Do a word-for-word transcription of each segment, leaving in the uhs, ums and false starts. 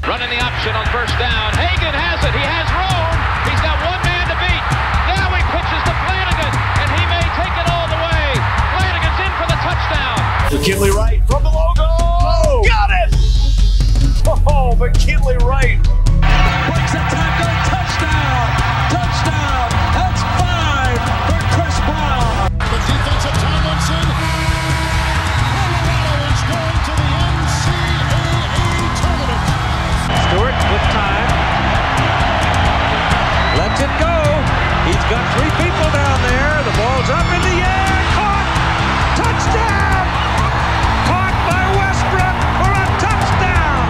Running the option on first down. Hagan has it. He has room. He's got one man to beat. Now he pitches to Flanagan, and he may take it all the way. Flanagan's in for the touchdown. McKinley Wright from the logo. Oh, got it! Oh, McKinley Wright. Breaks a tackle. Touchdown. Touchdown. That's five for Chris Brown. The defensive Tomlinson. Colorado is going to the N C double A tournament. Stewart with time. Lets it go. He's got three people down there. The ball's up in the air. Caught. Touchdown. Caught by Westbrook for a touchdown.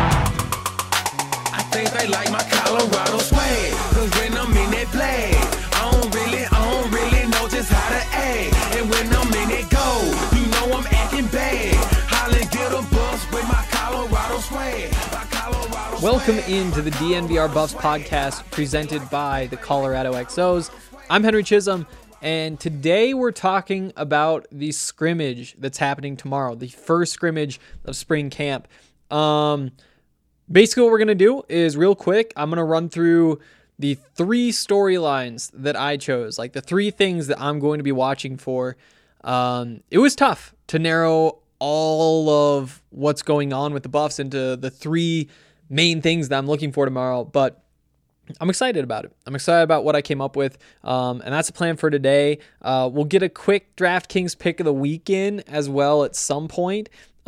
I think they like my Colorado swag. Cause when I'm in that play, I don't really, I don't really know just how to act. And when I'm in it go, you know I'm acting bad. Holland get a bus with my Colorado swag. My Colorado Welcome swag. into the D N V R Buffs podcast presented by the Colorado X Os. I'm Henry Chisholm, and today we're talking about the scrimmage that's happening tomorrow, the first scrimmage of spring camp. Um, basically what we're going to do is real quick, I'm going to run through the three storylines that I chose, like the three things that I'm going to be watching for. Um, it was tough to narrow all of what's going on with the Buffs into the three main things that I'm looking for tomorrow, but I'm excited about it. I'm excited about what I came up with, um, and that's the plan for today. Uh, we'll get a quick DraftKings pick of the weekend as well at some point.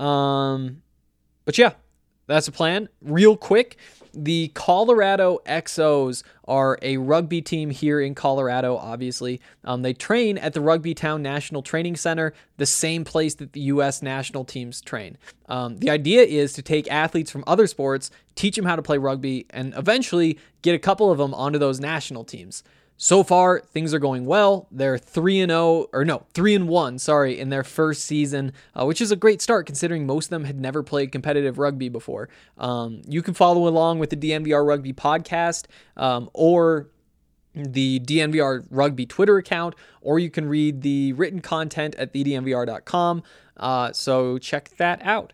Um, but yeah, that's the plan. Real quick, the Colorado X Os are a rugby team here in Colorado, obviously. Um, they train at the Rugby Town National Training Center, the same place that the U S national teams train. Um, the idea is to take athletes from other sports, teach them how to play rugby, and eventually get a couple of them onto those national teams. So far, things are going well. They're three and oh, or no, three and one, sorry, in their first season, uh, which is a great start considering most of them had never played competitive rugby before. Um, you can follow along with the D N V R Rugby podcast um, or the D N V R Rugby Twitter account, or you can read the written content at the d n v r dot com. Uh, so check that out.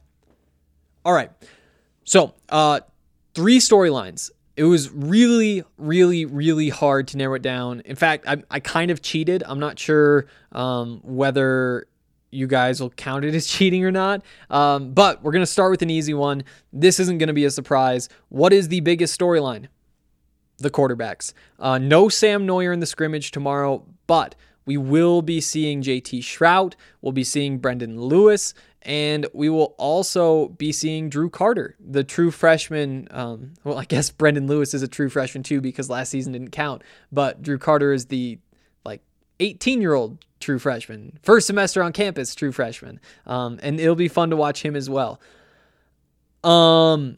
All right. So, uh, three storylines. It was really, really, really hard to narrow it down. In fact, I, I kind of cheated. I'm not sure um, whether you guys will count it as cheating or not. Um, but we're going to start with an easy one. This isn't going to be a surprise. What is the biggest storyline? The quarterbacks. Uh, no Sam Neuer in the scrimmage tomorrow, but we will be seeing J T Shrout. We'll be seeing Brendan Lewis. And we will also be seeing Drew Carter, the true freshman. Um, well, I guess Brendan Lewis is a true freshman too because last season didn't count. But Drew Carter is the like eighteen-year-old true freshman, first semester on campus true freshman. Um, and it'll be fun to watch him as well. Um,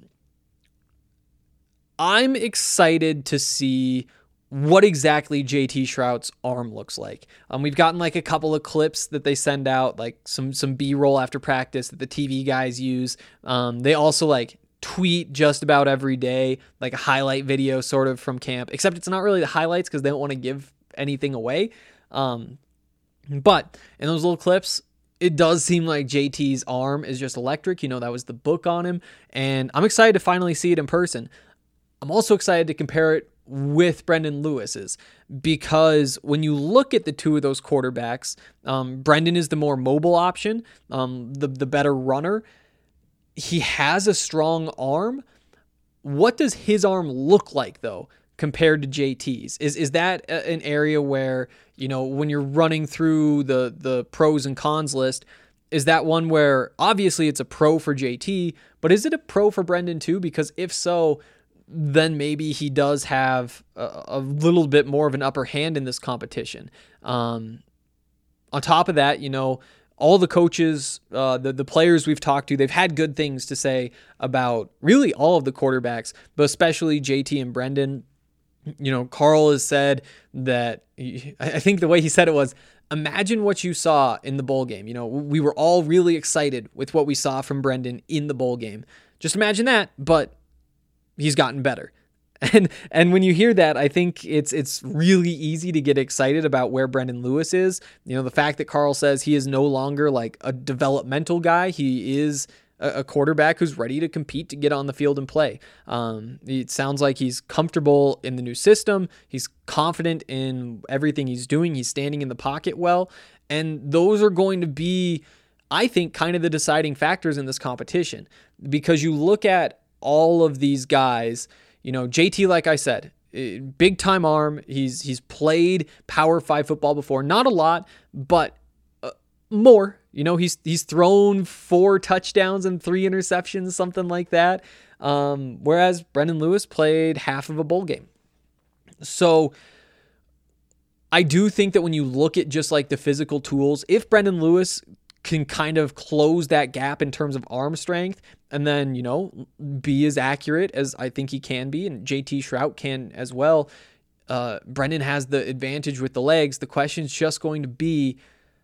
I'm excited to see what exactly J T Shrout's arm looks like. Um, we've gotten like a couple of clips that they send out, like some some B-roll after practice that the T V guys use. Um, they also like tweet just about every day, like a highlight video sort of from camp, except it's not really the highlights because they don't want to give anything away. Um, but in those little clips, it does seem like J T's arm is just electric. You know, that was the book on him, and I'm excited to finally see it in person. I'm also excited to compare it with Brendan Lewis's, because when you look at the two of those quarterbacks, um, Brendan is the more mobile option, um, the, the better runner. He has a strong arm. What does his arm look like, though, compared to J T's? Is is that a, an area where, you know, when you're running through the, the pros and cons list, is that one where obviously it's a pro for J T, but is it a pro for Brendan too? Because if so, then maybe he does have a, a little bit more of an upper hand in this competition. Um, on top of that, you know, all the coaches, uh, the, the players we've talked to, they've had good things to say about really all of the quarterbacks, but especially J T and Brendan. You know, Carl has said that, he, I think the way he said it was, imagine what you saw in the bowl game. You know, we were all really excited with what we saw from Brendan in the bowl game. Just imagine that, but he's gotten better. And and when you hear that, I think it's it's really easy to get excited about where Brendan Lewis is. You know, the fact that Carl says he is no longer like a developmental guy. He is a, a quarterback who's ready to compete to get on the field and play. Um, it sounds like he's comfortable in the new system. He's confident in everything he's doing. He's standing in the pocket well. And those are going to be, I think, kind of the deciding factors in this competition, because you look at all of these guys, you know, J T, like I said, big time arm. He's, he's played Power Five football before, not a lot, but uh, more, you know, he's, he's thrown four touchdowns and three interceptions, something like that. Um, whereas Brendan Lewis played half of a bowl game. So I do think that when you look at just like the physical tools, if Brendan Lewis can kind of close that gap in terms of arm strength and then, you know, be as accurate as I think he can be, and J T Shrout can as well, uh, Brendan has the advantage with the legs. The question is just going to be,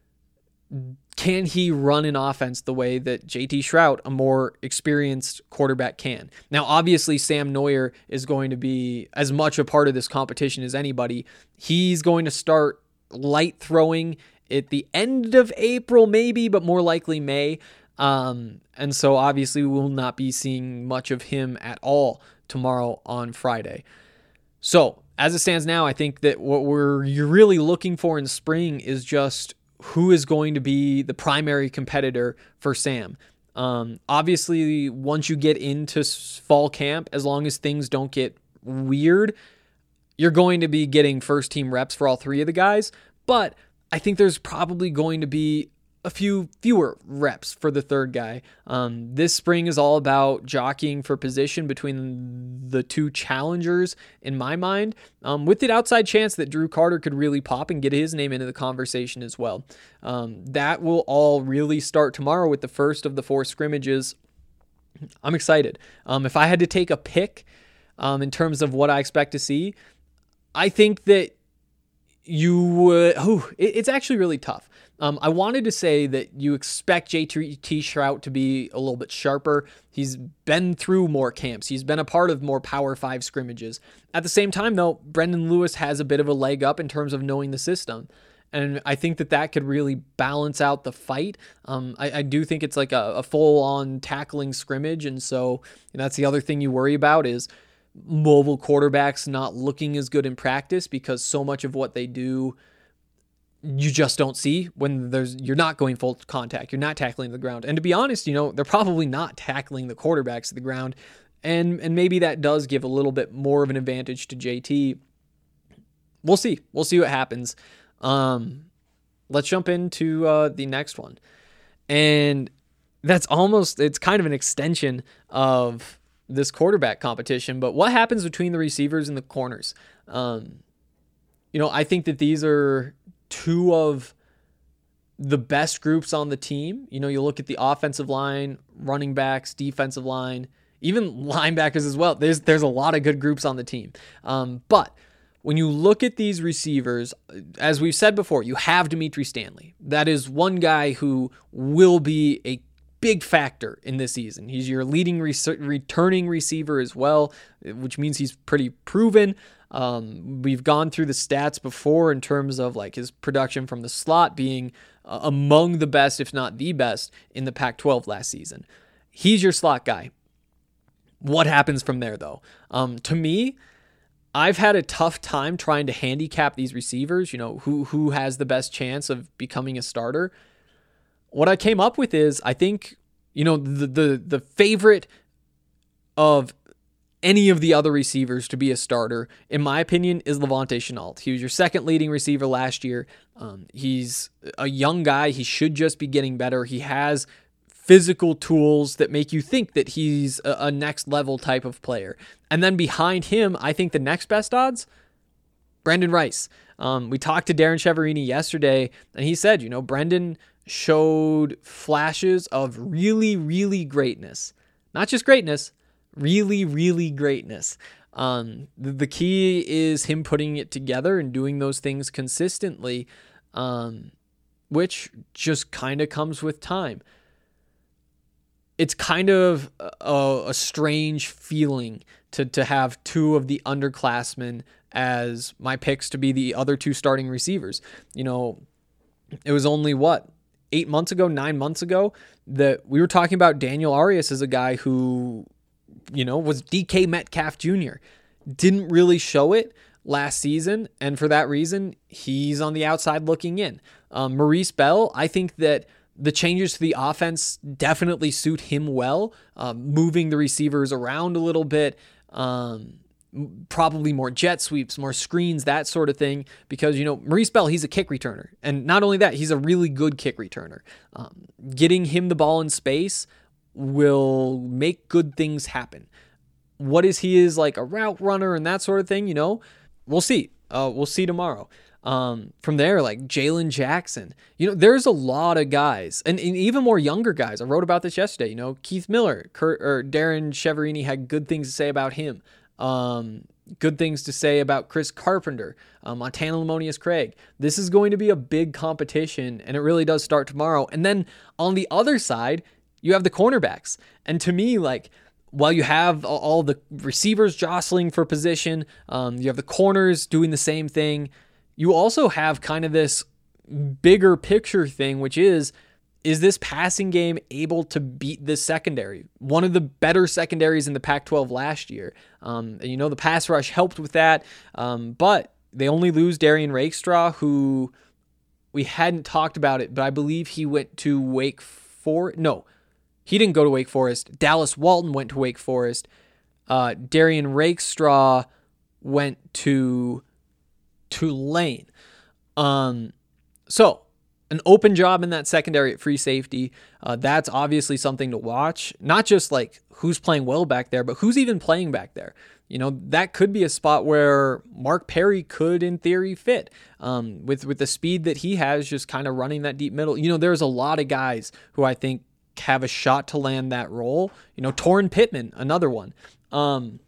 can he run an offense the way that J T Shrout, a more experienced quarterback, can? Now, obviously, Sam Neuer is going to be as much a part of this competition as anybody. He's going to start light throwing at the end of April, maybe, but more likely May. Um, and so, obviously, we will not be seeing much of him at all tomorrow on Friday. So, as it stands now, I think that what we're you're really looking for in spring is just who is going to be the primary competitor for Sam. Um, obviously, once you get into fall camp, as long as things don't get weird, you're going to be getting first team reps for all three of the guys. But I think there's probably going to be a few fewer reps for the third guy. Um, this spring is all about jockeying for position between the two challengers, in my mind, um, with the outside chance that Drew Carter could really pop and get his name into the conversation as well. Um, that will all really start tomorrow with the first of the four scrimmages. I'm excited. Um, if I had to take a pick um, in terms of what I expect to see, I think that you would, oh, it, it's actually really tough. Um, I wanted to say that you expect J T Shrout to be a little bit sharper. He's been through more camps. He's been a part of more Power Five scrimmages. At the same time, though, Brendan Lewis has a bit of a leg up in terms of knowing the system. And I think that that could really balance out the fight. Um, I, I do think it's like a, a full-on tackling scrimmage. And so and that's the other thing you worry about is mobile quarterbacks not looking as good in practice, because so much of what they do you just don't see when there's you're not going full contact. You're not tackling the ground. And to be honest, you know, they're probably not tackling the quarterbacks to the ground. And and maybe that does give a little bit more of an advantage to J T. We'll see. We'll see what happens. Um, let's jump into uh, the next one. And that's almost, it's kind of an extension of this quarterback competition. But what happens between the receivers and the corners? Um, you know, I think that these are two of the best groups on the team. You know, you look at the offensive line, running backs, defensive line, even linebackers as well. There's there's a lot of good groups on the team. Um, but when you look at these receivers, as we've said before, you have Dimitri Stanley. That is one guy who will be a big factor in this season. He's your leading re- returning receiver as well, which means he's pretty proven. Um, we've gone through the stats before in terms of like his production from the slot being uh, among the best, if not the best, in the Pac twelve last season. He's your slot guy. What happens from there, though? Um, to me, I've had a tough time trying to handicap these receivers, you know, who who has the best chance of becoming a starter. What I came up with is, I think, you know, the the the favorite of any of the other receivers to be a starter, in my opinion, is Levante Shenault. He was your second leading receiver last year. Um, he's a young guy. He should just be getting better. He has physical tools that make you think that he's a, a next level type of player. And then behind him, I think the next best odds, Brendan Rice. Um, we talked to Darren Cheverini yesterday, and he said, you know, Brendan showed flashes of really, really greatness. Not just greatness, really, really greatness. Um, the, the key is him putting it together and doing those things consistently, um, which just kind of comes with time. It's kind of a, a strange feeling to, to have two of the underclassmen as my picks to be the other two starting receivers. You know, it was only what, eight months ago, nine months ago, that we were talking about Daniel Arias as a guy who, you know, was D K Metcalf Junior Didn't really show it last season, and for that reason, he's on the outside looking in. Um, Maurice Bell, I think that the changes to the offense definitely suit him well, um, moving the receivers around a little bit, um, probably more jet sweeps, more screens, that sort of thing, because, you know, Maurice Bell, he's a kick returner, and not only that, he's a really good kick returner. Um, getting him the ball in space will make good things happen. What is he is like a route runner and that sort of thing, you know, we'll see. Uh, we'll see tomorrow. Um, from there, like Jalen Jackson, you know, there's a lot of guys and, and even more younger guys. I wrote about this yesterday, you know, Keith Miller, Kurt, or Darren Cheverini had good things to say about him. Um, good things to say about Chris Carpenter, uh, Montana Lamonius Craig. This is going to be a big competition, and it really does start tomorrow. And then on the other side, you have the cornerbacks. And to me, like, while you have all the receivers jostling for position, um, you have the corners doing the same thing, you also have kind of this bigger picture thing, which is, is this passing game able to beat this secondary? One of the better secondaries in the Pac twelve last year. Um, and you know, the pass rush helped with that, um, but they only lose Darian Rakestraw, who we hadn't talked about it, but I believe he went to Wake Forest. No, he didn't go to Wake Forest. Dallas Walton went to Wake Forest. Uh, Darian Rakestraw went to Tulane. Um, so an open job in that secondary at free safety. Uh, that's obviously something to watch. Not just like who's playing well back there, but who's even playing back there. You know, that could be a spot where Mark Perry could, in theory, fit um, with, with the speed that he has, just kind of running that deep middle. You know, there's a lot of guys who I think have a shot to land that role. You know, Torrin Pittman, another one. Um,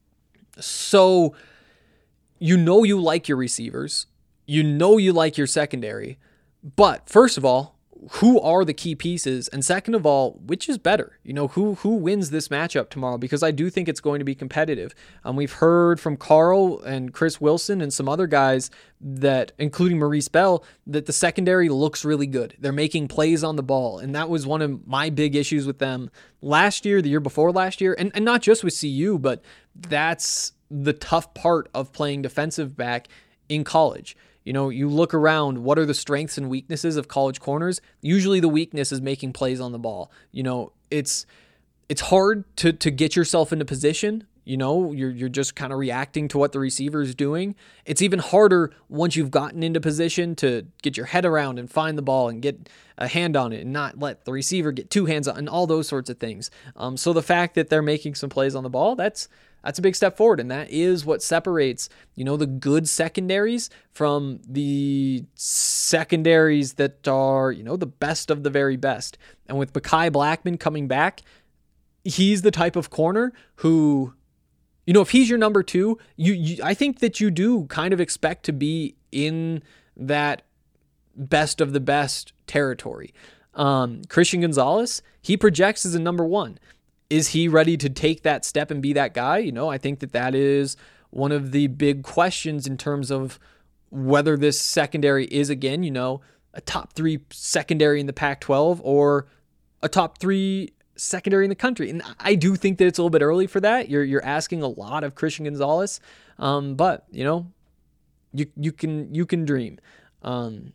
so you know you like your receivers. You know you like your secondary. But first of all, who are the key pieces? And second of all, which is better? You know, who who wins this matchup tomorrow? Because I do think it's going to be competitive. Um, we've heard from Carl and Chris Wilson and some other guys that, including Maurice Bell, that the secondary looks really good. They're making plays on the ball. And that was one of my big issues with them last year, the year before last year, and, and not just with C U, but that's the tough part of playing defensive back in college. You know, you look around, what are the strengths and weaknesses of college corners? Usually the weakness is making plays on the ball. You know, it's it's hard to to get yourself into position. You know, you're you're just kind of reacting to what the receiver is doing. It's even harder once you've gotten into position to get your head around and find the ball and get a hand on it and not let the receiver get two hands on and all those sorts of things. Um, so the fact that they're making some plays on the ball, that's That's a big step forward, and that is what separates, you know, the good secondaries from the secondaries that are, you know, the best of the very best. And with Mekhi Blackmon coming back, he's the type of corner who, you know, if he's your number two, you, you I think that you do kind of expect to be in that best of the best territory. Um, Christian Gonzalez, he projects as a number one. Is he ready to take that step and be that guy? You know, I think that that is one of the big questions in terms of whether this secondary is, again, you know, a top three secondary in the Pac twelve or a top three secondary in the country. And I do think that it's a little bit early for that. You're you're asking a lot of Christian Gonzalez, um, but you know, you you can you can dream. Um,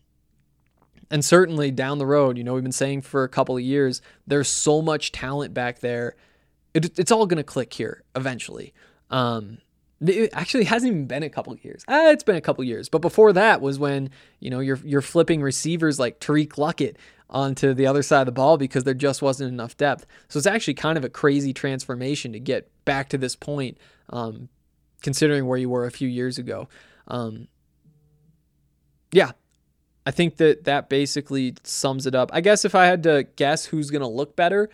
And certainly down the road, you know, we've been saying for a couple of years, there's so much talent back there. It, it's all going to click here eventually. Um, it actually hasn't even been a couple of years. Ah, it's been a couple of years. But before that was when, you know, you're you're flipping receivers like Tariq Luckett onto the other side of the ball because there just wasn't enough depth. So it's actually kind of a crazy transformation to get back to this point, um, considering where you were a few years ago. Um, yeah. I think that that basically sums it up. I guess if I had to guess who's going to look better,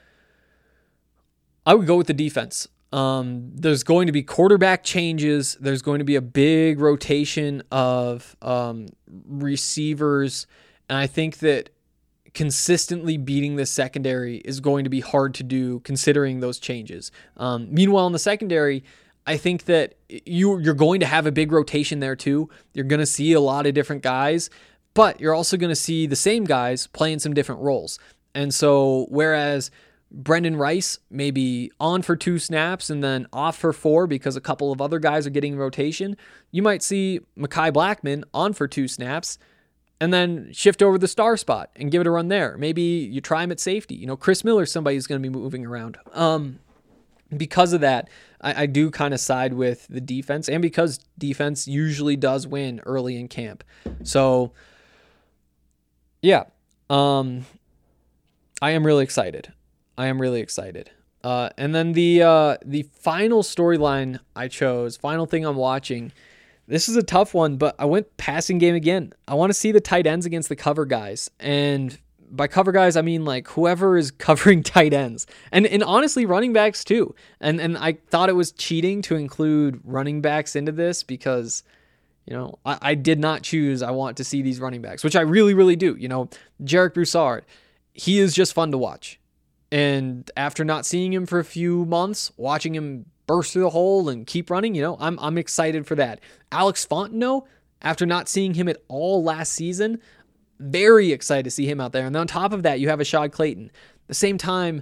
I would go with the defense. Um, there's going to be quarterback changes. There's going to be a big rotation of um, receivers. And I think that consistently beating the secondary is going to be hard to do considering those changes. Um, meanwhile, in the secondary, I think that you, you're going to have a big rotation there too. You're going to see a lot of different guys. but you're also going to see the same guys playing some different roles. And so whereas Brendan Rice may be on for two snaps and then off for four because a couple of other guys are getting rotation, you might see Mekhi Blackmon on for two snaps and then shift over the star spot and give it a run there. Maybe you try him at safety. You know, Chris Miller's somebody who's going to be moving around. Um, because of that, I, I do kind of side with the defense, and because defense usually does win early in camp. So, yeah, um, I am really excited. I am really excited. Uh, and then the uh, the final storyline I chose, final thing I'm watching, this is a tough one, but I went passing game again. I want to see the tight ends against the cover guys. And by cover guys, I mean like whoever is covering tight ends. And and honestly, running backs too. And and I thought it was cheating to include running backs into this because, you know, I, I did not choose I want to see these running backs, which I really, really do. You know, Jarek Broussard, he is just fun to watch. And after not seeing him for a few months, watching him burst through the hole and keep running, you know, I'm I'm excited for that. Alex Fontenot, after not seeing him at all last season, very excited to see him out there. And then on top of that, you have Ashad Clayton. At the same time,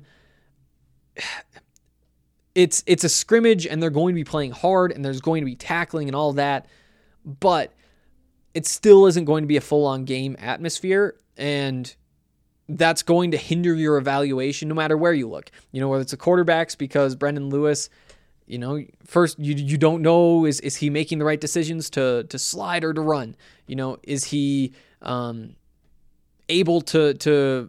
it's it's a scrimmage and they're going to be playing hard and there's going to be tackling and all that, but it still isn't going to be a full-on game atmosphere, and that's going to hinder your evaluation no matter where you look. You know, whether it's the quarterbacks, because Brendan Lewis, you know, first you you don't know, is is he making the right decisions to to slide or to run? You know, is he um, able to to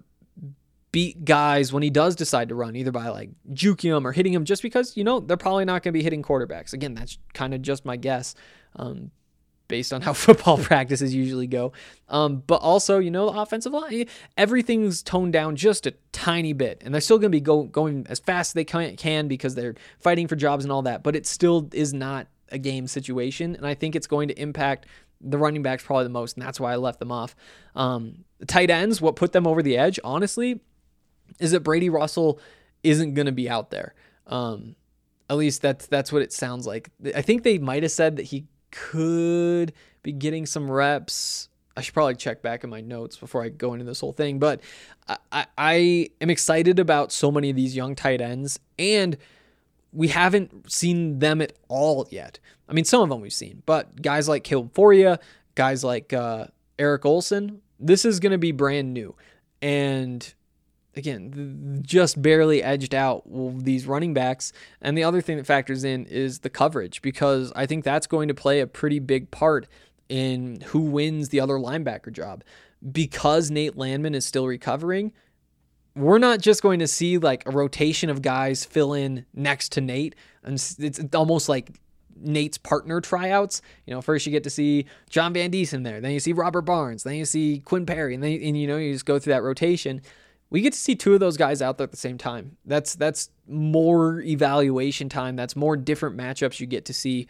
beat guys when he does decide to run, either by like juking them or hitting them, just because, you know, they're probably not going to be hitting quarterbacks. Again, that's kind of just my guess. Um, based on how football practices usually go. Um, but also, you know, the offensive line, everything's toned down just a tiny bit, and they're still going to be go, going as fast as they can, can because they're fighting for jobs and all that, but it still is not a game situation, and I think it's going to impact the running backs probably the most, and that's why I left them off. Um, the tight ends, what put them over the edge, honestly, is that Brady Russell isn't going to be out there. Um, at least that's, that's what it sounds like. I think they might have said that he could be getting some reps. I should probably check back in my notes before I go into this whole thing, but I, I, I am excited about so many of these young tight ends, and we haven't seen them at all yet. I mean, some of them we've seen, but guys like Caleb Foria, guys like uh, Eric Olson, this is going to be brand new. And again, just barely edged out these running backs. And the other thing that factors in is the coverage, because I think that's going to play a pretty big part in who wins the other linebacker job. Because Nate Landman is still recovering, we're not just going to see like a rotation of guys fill in next to Nate. And it's almost like Nate's partner tryouts. You know, first you get to see John Van Diesen there, then you see Robert Barnes, then you see Quinn Perry, and then and you know you just go through that rotation. We get to see two of those guys out there at the same time. That's that's more evaluation time. That's more different matchups you get to see.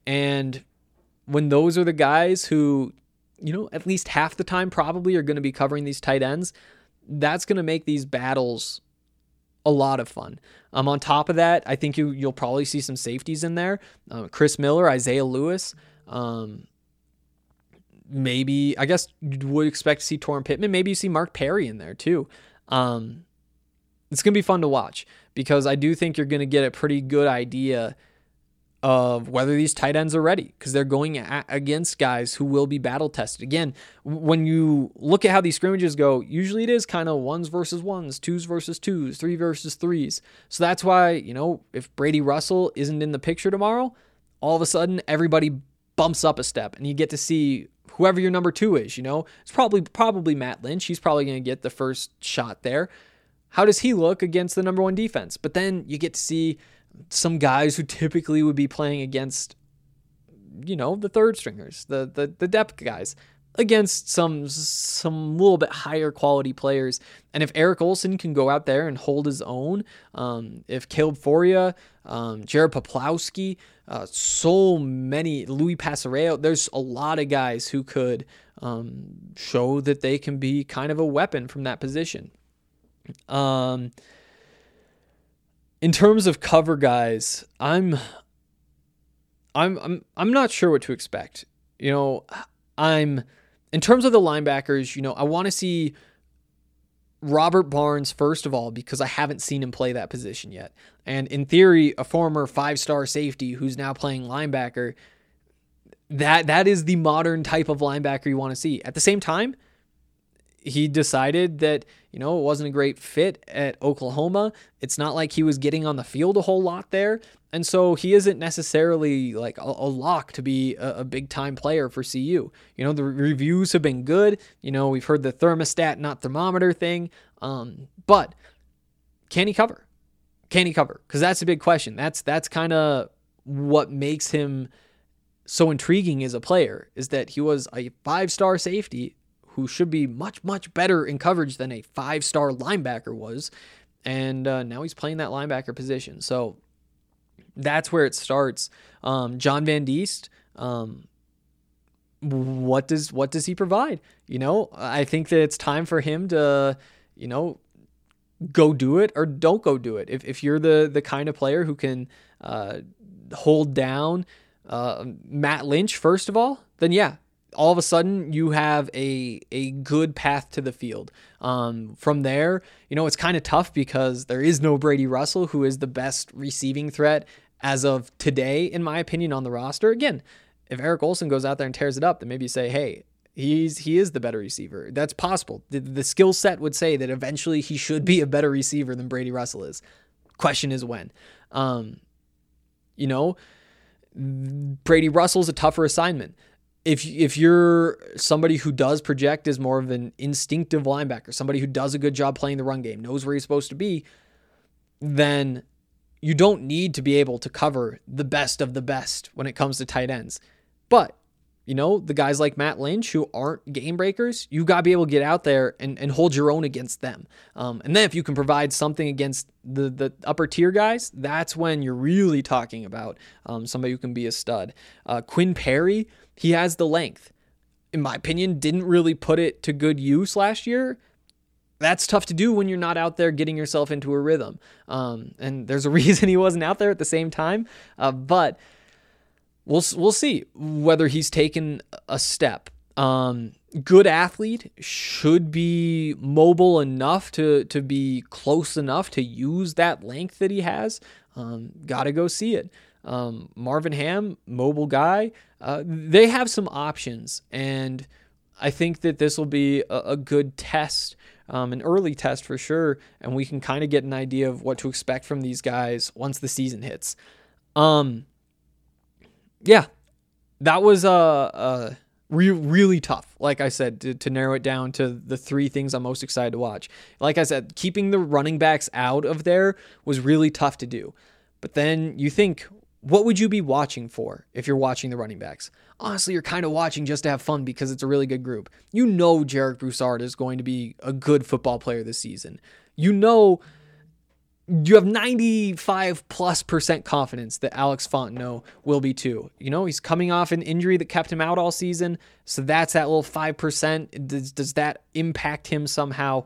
And when those are the guys who, you know, at least half the time probably are going to be covering these tight ends, that's going to make these battles a lot of fun. Um, on top of that, I think you, you'll probably see some safeties in there. Uh, Chris Miller, Isaiah Lewis, um, maybe, I guess you would expect to see Torrin Pittman. Maybe you see Mark Perry in there too. Um, it's going to be fun to watch, because I do think you're going to get a pretty good idea of whether these tight ends are ready, because they're going a- against guys who will be battle tested. Again, when you look at how these scrimmages go, usually it is kind of ones versus ones, twos versus twos, three versus threes. So that's why, you know, if Brady Russell isn't in the picture tomorrow, all of a sudden everybody bumps up a step and you get to see whoever your number two is. You know, it's probably probably Matt Lynch. He's probably going to get the first shot there. How does he look against the number one defense? But then you get to see some guys who typically would be playing against, you know, the third stringers, the the the depth guys, against some some little bit higher quality players. And if Eric Olson can go out there and hold his own, um, if Caleb Foria, um, Jared Poplawski, uh, so many, Louis Passareo, there's a lot of guys who could um, show that they can be kind of a weapon from that position. Um, in terms of cover guys, I'm, I'm, I'm, I'm not sure what to expect. You know, I'm in terms of the linebackers, you know, I want to see Robert Barnes, first of all, because I haven't seen him play that position yet. And in theory, a former five-star safety who's now playing linebacker, that that is the modern type of linebacker you want to see. At the same time, he decided that, you know, it wasn't a great fit at Oklahoma. It's not like he was getting on the field a whole lot there. And so he isn't necessarily like a, a lock to be a, a big time player for C U. You know, the reviews have been good. You know, we've heard the thermostat, not thermometer thing. Um, but can he cover? Can he cover? Because that's a big question. That's, that's kind of what makes him so intriguing as a player, is that he was a five-star safety who should be much, much better in coverage than a five-star linebacker was. And uh, now he's playing that linebacker position. So that's where it starts. Um, John Van Diest, um, what does what does he provide? You know, I think that it's time for him to, you know, go do it or don't go do it. If if you're the the kind of player who can uh, hold down uh, Matt Lynch, first of all, then yeah, all of a sudden you have a a good path to the field. Um, from there, you know, it's kind of tough because there is no Brady Russell, who is the best receiving threat as of today, in my opinion, on the roster. Again, if Eric Olsen goes out there and tears it up, then maybe you say, hey, he's he is the better receiver. That's possible. The, the skill set would say that eventually he should be a better receiver than Brady Russell is. Question is when. Um, you know, Brady Russell's a tougher assignment. If if you're somebody who does project as more of an instinctive linebacker, somebody who does a good job playing the run game, knows where he's supposed to be, then you don't need to be able to cover the best of the best when it comes to tight ends. But, you know, the guys like Matt Lynch who aren't game breakers, you got to be able to get out there and, and hold your own against them. Um, and then if you can provide something against the, the upper tier guys, that's when you're really talking about um, somebody who can be a stud. Uh, Quinn Perry, he has the length. In my opinion, didn't really put it to good use last year. That's tough to do when you're not out there getting yourself into a rhythm. Um, and there's a reason he wasn't out there at the same time. Uh, but we'll we'll see whether he's taken a step. Um, good athlete, should be mobile enough to to be close enough to use that length that he has. Um, gotta go see it. Um, Marvin Ham, mobile guy. Uh, they have some options, and I think that this will be a, a good test, um, an early test for sure, and we can kind of get an idea of what to expect from these guys once the season hits. Um, yeah, that was a uh, uh, re- really tough, like I said, to, to narrow it down to the three things I'm most excited to watch. Like I said, keeping the running backs out of there was really tough to do. But then you think, what would you be watching for if you're watching the running backs? Honestly, you're kind of watching just to have fun because it's a really good group. You know Jarek Broussard is going to be a good football player this season. You know you have ninety-five plus percent confidence that Alex Fontenot will be too. You know, he's coming off an injury that kept him out all season, so that's that little five percent. Does, does that impact him somehow?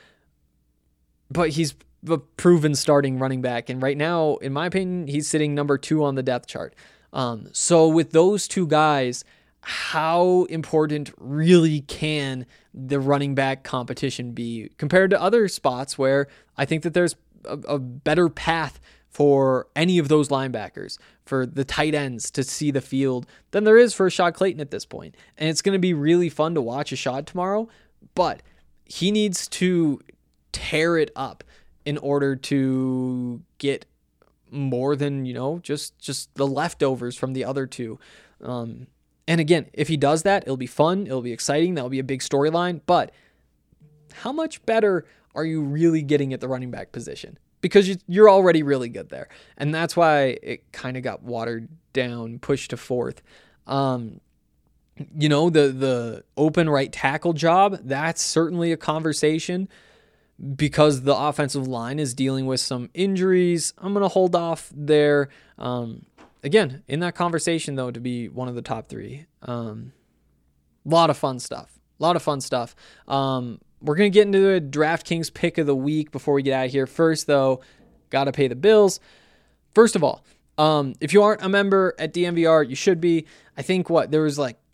But he's a proven starting running back, and right now, in my opinion, he's sitting number two on the depth chart. Um, so with those two guys, how important really can the running back competition be compared to other spots where I think that there's a, a better path for any of those linebackers, for the tight ends to see the field than there is for Rashad Clayton at this point. And it's going to be really fun to watch Rashad tomorrow, but he needs to tear it up in order to get more than, you know, just, just the leftovers from the other two. Um, and again, if he does that, it'll be fun. It'll be exciting. That'll be a big storyline. But how much better are you really getting at the running back position? Because you, you're already really good there. And that's why it kind of got watered down, pushed to fourth. Um, you know, the, the open right tackle job, that's certainly a conversation. Because the offensive line is dealing with some injuries, I'm going to hold off there. Um, again, in that conversation, though, to be one of the top three. A um, lot of fun stuff. A lot of fun stuff. Um, we're going to get into the DraftKings pick of the week before we get out of here. First, though, got to pay the bills. First of all, um, if you aren't a member at D M V R, you should be. I think what there was like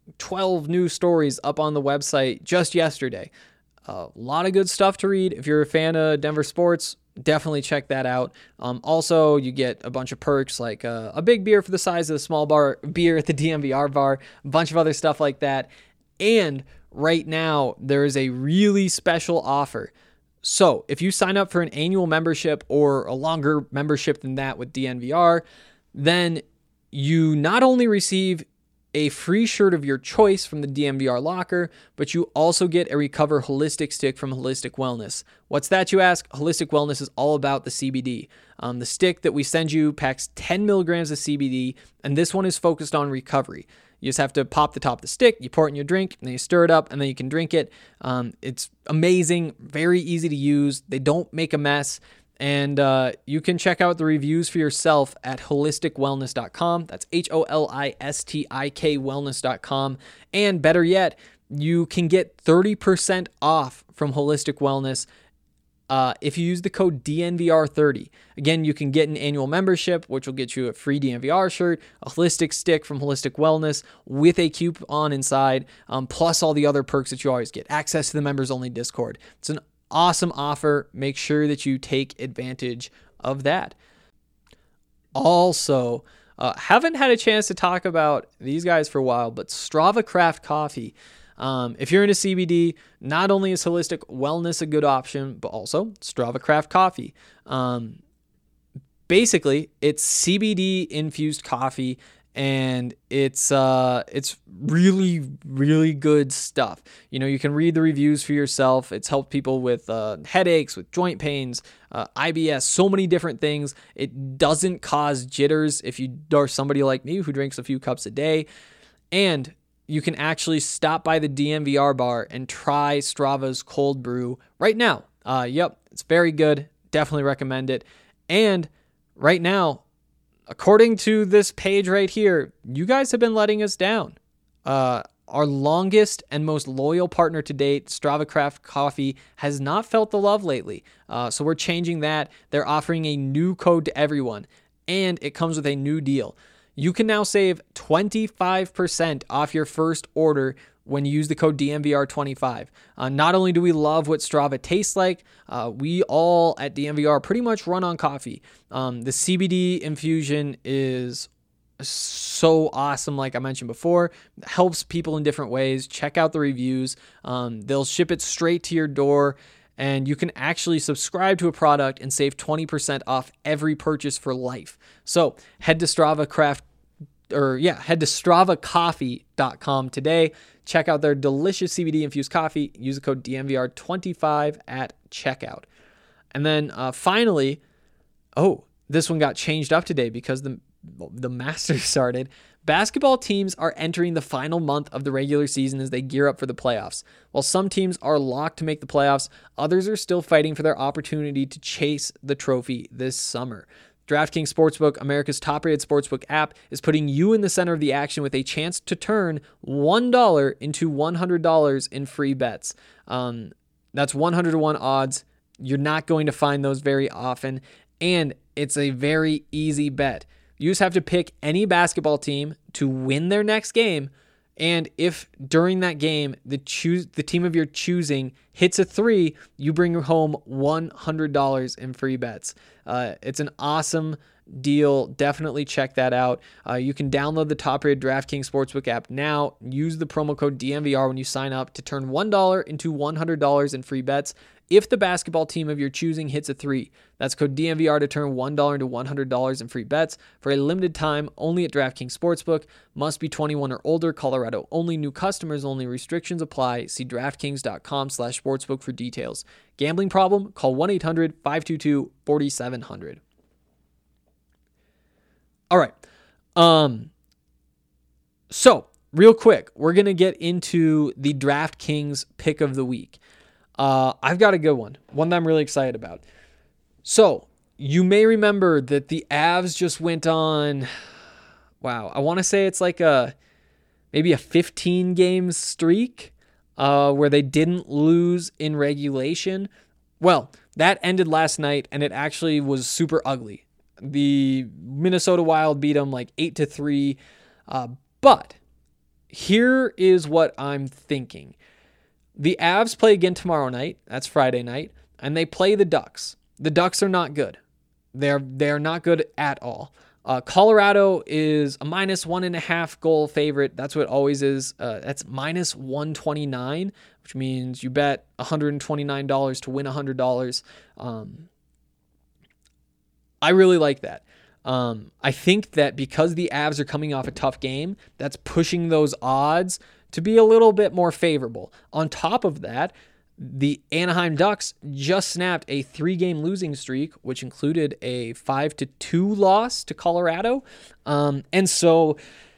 twelve new stories up on the website just yesterday. A lot of good stuff to read. If you're a fan of Denver sports, definitely check that out. Um, also, you get a bunch of perks like uh, a big beer for the size of a small bar beer at the D M V R bar, a bunch of other stuff like that. And right now, there is a really special offer. So if you sign up for an annual membership or a longer membership than that with D N V R, then you not only receive a free shirt of your choice from the D M V R locker, but you also get a Recover Holistic stick from Holistic Wellness. What's that, you ask? Holistic Wellness is all about the C B D. Um, the stick that we send you packs ten milligrams of C B D, and this one is focused on recovery. You just have to pop the top of the stick, you pour it in your drink, and then you stir it up, and then you can drink it. Um, it's amazing, very easy to use. They don't make a mess. And uh, you can check out the reviews for yourself at holistic wellness dot com. That's H O L I S T I K wellness dot com. And better yet, you can get thirty percent off from Holistic Wellness uh, if you use the code D N V R thirty. Again, you can get an annual membership, which will get you a free D N V R shirt, a holistic stick from Holistic Wellness with a coupon inside, um, plus all the other perks that you always get. Access to the members-only Discord. It's an awesome offer. Make sure that you take advantage of that. Also, uh, haven't had a chance to talk about these guys for a while, but Strava Craft Coffee. Um, if you're into C B D, not only is Holistic Wellness a good option, but also Strava Craft Coffee. Um, basically, it's C B D infused coffee, and it's uh it's really really good stuff. You know, you can read the reviews for yourself. It's helped people with uh, headaches, with joint pains, uh, I B S, so many different things. It doesn't cause jitters if you are somebody like me who drinks a few cups a day. And you can actually stop by the D N V R bar and try Strava's cold brew right now. Uh, yep, it's very good. Definitely recommend it. And right now, according to this page right here, you guys have been letting us down. Uh, our longest and most loyal partner to date, Strava Craft Coffee, has not felt the love lately. Uh, so we're changing that. They're offering a new code to everyone, and it comes with a new deal. You can now save twenty-five percent off your first order when you use the code D N V R twenty-five. Uh, not only do we love what Strava tastes like, uh, we all at D N V R pretty much run on coffee. Um, the C B D infusion is so awesome, like I mentioned before. It helps people in different ways. Check out the reviews. Um, they'll ship it straight to your door, and you can actually subscribe to a product and save twenty percent off every purchase for life. So head to Strava Craft, or yeah, head to strava coffee dot com today. Check out their delicious C B D infused coffee. Use the code D N V R twenty-five at checkout. And then uh, finally, oh, this one got changed up today because the the Masters started. Basketball teams are entering the final month of the regular season as they gear up for the playoffs. While some teams are locked to make the playoffs, others are still fighting for their opportunity to chase the trophy this summer. DraftKings Sportsbook, America's top-rated sportsbook app, is putting you in the center of the action with a chance to turn one dollar into one hundred dollars in free bets. Um, that's one hundred to one odds. You're not going to find those very often, and it's a very easy bet. You just have to pick any basketball team to win their next game, and if during that game the choose the team of your choosing hits a three, you bring home one hundred dollars in free bets. Uh, it's an awesome deal. Definitely check that out. Uh, you can download the top-rated DraftKings Sportsbook app now. Use the promo code D N V R when you sign up to turn one dollar into one hundred dollars in free bets. If the basketball team of your choosing hits a three, that's code D N V R to turn one dollar into one hundred dollars in free bets for a limited time only at DraftKings Sportsbook. Must be twenty-one or older. Colorado only. New customers only. Restrictions apply. See DraftKings.com slash sportsbook for details. Gambling problem? Call one eight hundred five two two four seven zero zero. All right. Um. So, real quick, we're going to get into the DraftKings pick of the week. Uh, I've got a good one, one that I'm really excited about. So, you may remember that the Avs just went on, wow, I want to say it's like a, maybe a fifteen game streak uh, where they didn't lose in regulation. Well, that ended last night, and it actually was super ugly. The Minnesota Wild beat them like eight to three, uh, but here is what I'm thinking. The Avs play again tomorrow night. That's Friday night. And they play the Ducks. The Ducks are not good. They're they're not good at all. Uh, Colorado is a minus one and a half goal favorite. That's what it always is. Uh, that's minus one twenty-nine, which means you bet one hundred twenty-nine dollars to win one hundred dollars. Um, I really like that. Um, I think that because the Avs are coming off a tough game, that's pushing those odds to be a little bit more favorable. On top of that, the Anaheim Ducks just snapped a three-game losing streak, which included a five to two loss to Colorado. Um, and so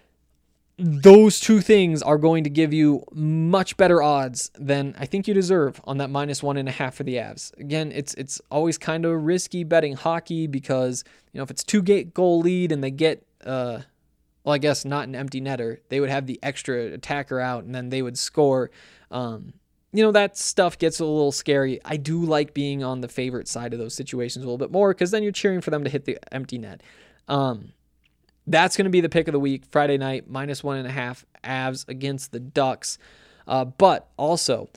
those two things are going to give you much better odds than I think you deserve on that minus one and a half for the Avs. Again, it's it's always kind of risky betting hockey because, you know, if it's two goal lead and they get, uh, well, I guess not an empty netter, they would have the extra attacker out and then they would score. Um, you know, that stuff gets a little scary. I do like being on the favorite side of those situations a little bit more because then you're cheering for them to hit the empty net. Um, That's going to be the pick of the week, Friday night, minus one and a half, Avs against the Ducks. Uh, but also,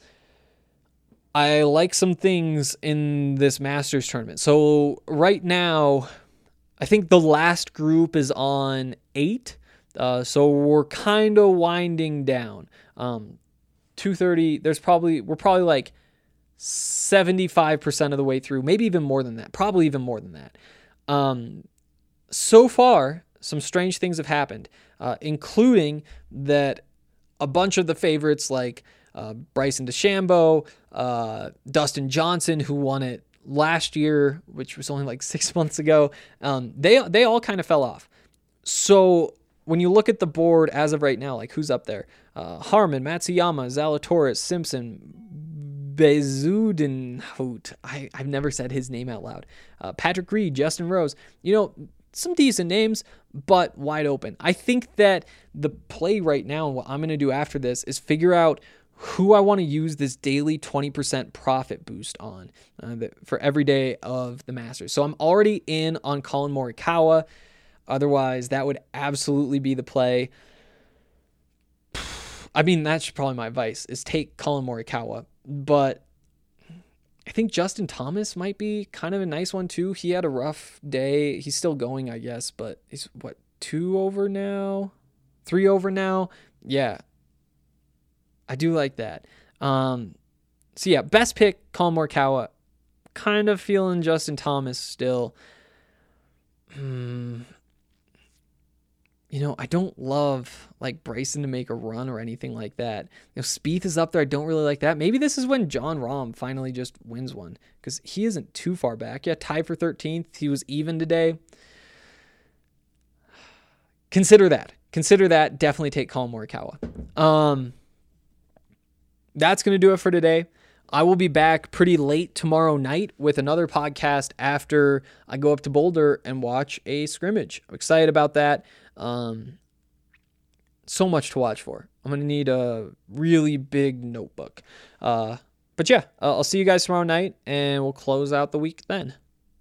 I like some things in this Masters tournament. So right now, I think the last group is on eight. Uh, so we're kind of winding down. Um, two thirty, there's probably, we're probably like seventy-five percent of the way through, maybe even more than that, probably even more than that. Um, so far, some strange things have happened, uh, including that a bunch of the favorites like uh, Bryson DeChambeau, uh, Dustin Johnson, who won it last year, which was only like six months ago, um, they they all kind of fell off. So when you look at the board as of right now, like who's up there? Uh, Harman, Matsuyama, Zalatoris, Simpson, Bezudenhout. I, I've never said his name out loud. Uh, Patrick Reed, Justin Rose. You know, some decent names, but wide open. I think that the play right now and what I'm going to do after this is figure out who I want to use this daily twenty percent profit boost on uh, the, for every day of the Masters. So I'm already in on Colin Morikawa. Otherwise, that would absolutely be the play. I mean, that's probably my advice, is take Colin Morikawa. But I think Justin Thomas might be kind of a nice one too. He had a rough day. He's still going, I guess, but he's what, two over now? Three over now? Yeah. I do like that. Um, so yeah, best pick, Colin Morikawa. Kind of feeling Justin Thomas still. Hmm. You know, I don't love like Bryson to make a run or anything like that. You know, Spieth is up there. I don't really like that. Maybe this is when Jon Rahm finally just wins one because he isn't too far back. Yeah, tied for thirteenth. He was even today. Consider that. Consider that. Definitely take Colin Morikawa. Um, that's going to do it for today. I will be back pretty late tomorrow night with another podcast after I go up to Boulder and watch a scrimmage. I'm excited about that. Um, so much to watch for. I'm going to need a really big notebook. Uh, but yeah, uh, I'll see you guys tomorrow night and we'll close out the week then.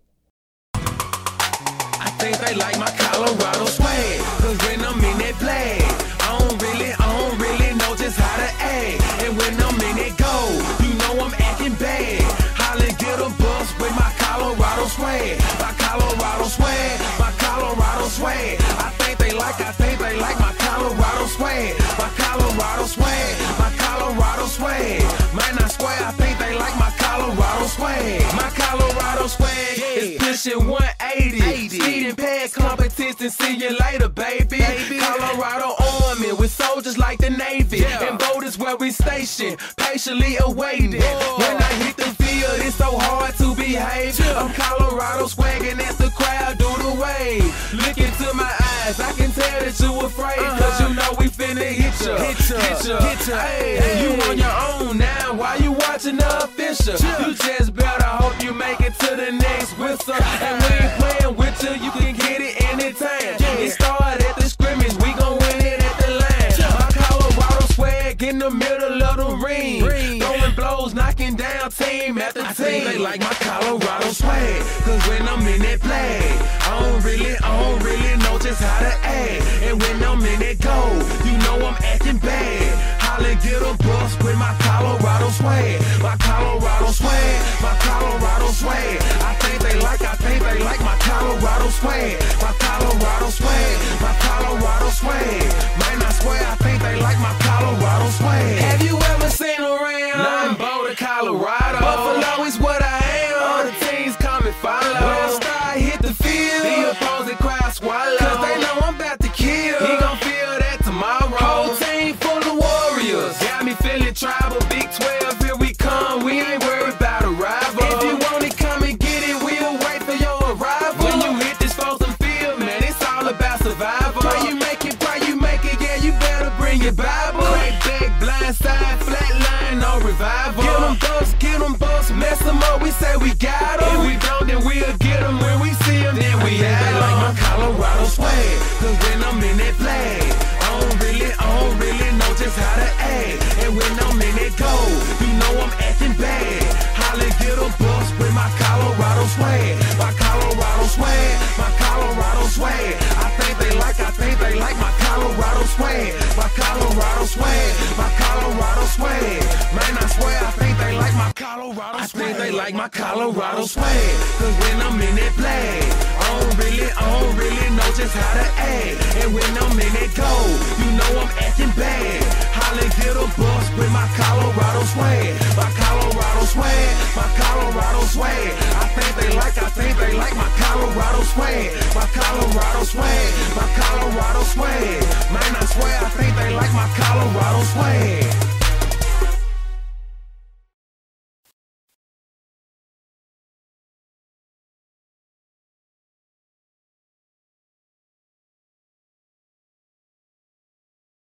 I think they like my Colorado swag, cause when I'm in that play, I don't really, I don't really know just how to act. And when I'm in that go, you know I'm acting bad. Holly get a bus with my Colorado swag, my Colorado swag, my Colorado swag. I think they like, I think they like my Colorado swag, my Colorado swag, my Colorado swag. Man, I swear I think they like my Colorado swag, my Colorado swag is pushing one eighty. Speed and pad competition, see you later, baby. baby. Colorado Army with soldiers like the Navy, yeah. And boat is where we station, patiently awaiting. Whoa. When I hit the field, it's so hard to behave. Yeah. I'm Colorado swagging as the crowd do the wave. Look into my eyes, I can tell that you afraid, uh-huh. Cause you know we finna hit ya, hit ya, hit ya, hit ya. Hey, hey. You on your own now, why you watching the official? Yeah. You just better hope you make it to the next whistle. And we ain't playing with you, you can get it anytime. Yeah. It started at the scrimmage, we gon' win it at the line. Yeah. My Colorado swag in the middle of the ring, ring. Throwing blows, knocking down team after team. I think they like my Colorado swag, cause when I'm in that play, I don't really, I don't really know just how to act. And when I'm in that go, you know I'm acting bad. swag, my Colorado swag, my Colorado swag. I think they like, I think they like my Colorado swag, my Colorado swag, my Colorado swag. Man, I swear I think they like my Colorado swag. Have you ever seen around? Nah, I'm Boulder, Colorado. Buffalo is what I am. All the teams come and follow. When I start hit the field, the opposing crowd swallow. Cause they know I'm about to kill. He gon' feel that tomorrow. Whole team full of warriors. Got me feeling tribal. Big twelve, here we come. We ain't worried about a rival. If you want it, come and get it. We'll wait for your arrival. When you hit this frozen field, man, it's all about survival. Pray you make it, pray you make it. Yeah, you better bring your Bible. Crack back, blind side, flat line, no revival. Get them bucks, get them bucks, mess them up. We say we got them. If we don't, then we'll get them. When we see them, then we have them. Like my Colorado swag, cause when I'm in that flag, I don't really, I don't really know just how to act. And when I'm in that gold, you know I'm acting bad. Holly get a bus with my Colorado swag, my Colorado swag, my Colorado swag. I think they like, I think they like my Colorado swag, my Colorado swag, my Colorado swag. Man, I swear I think they like my Colorado swag. I think they like my Colorado swag, cause when I'm in that flag, I don't really, I don't really know just how to act. And when I'm in that gold, you know I'm acting bad. Holly get a bus with my Colorado swag, my Colorado swag, my Colorado swag. I think they like, I think they like my Colorado swag, my Colorado swag, my Colorado swag. Man, I swear I think they like my Colorado swag.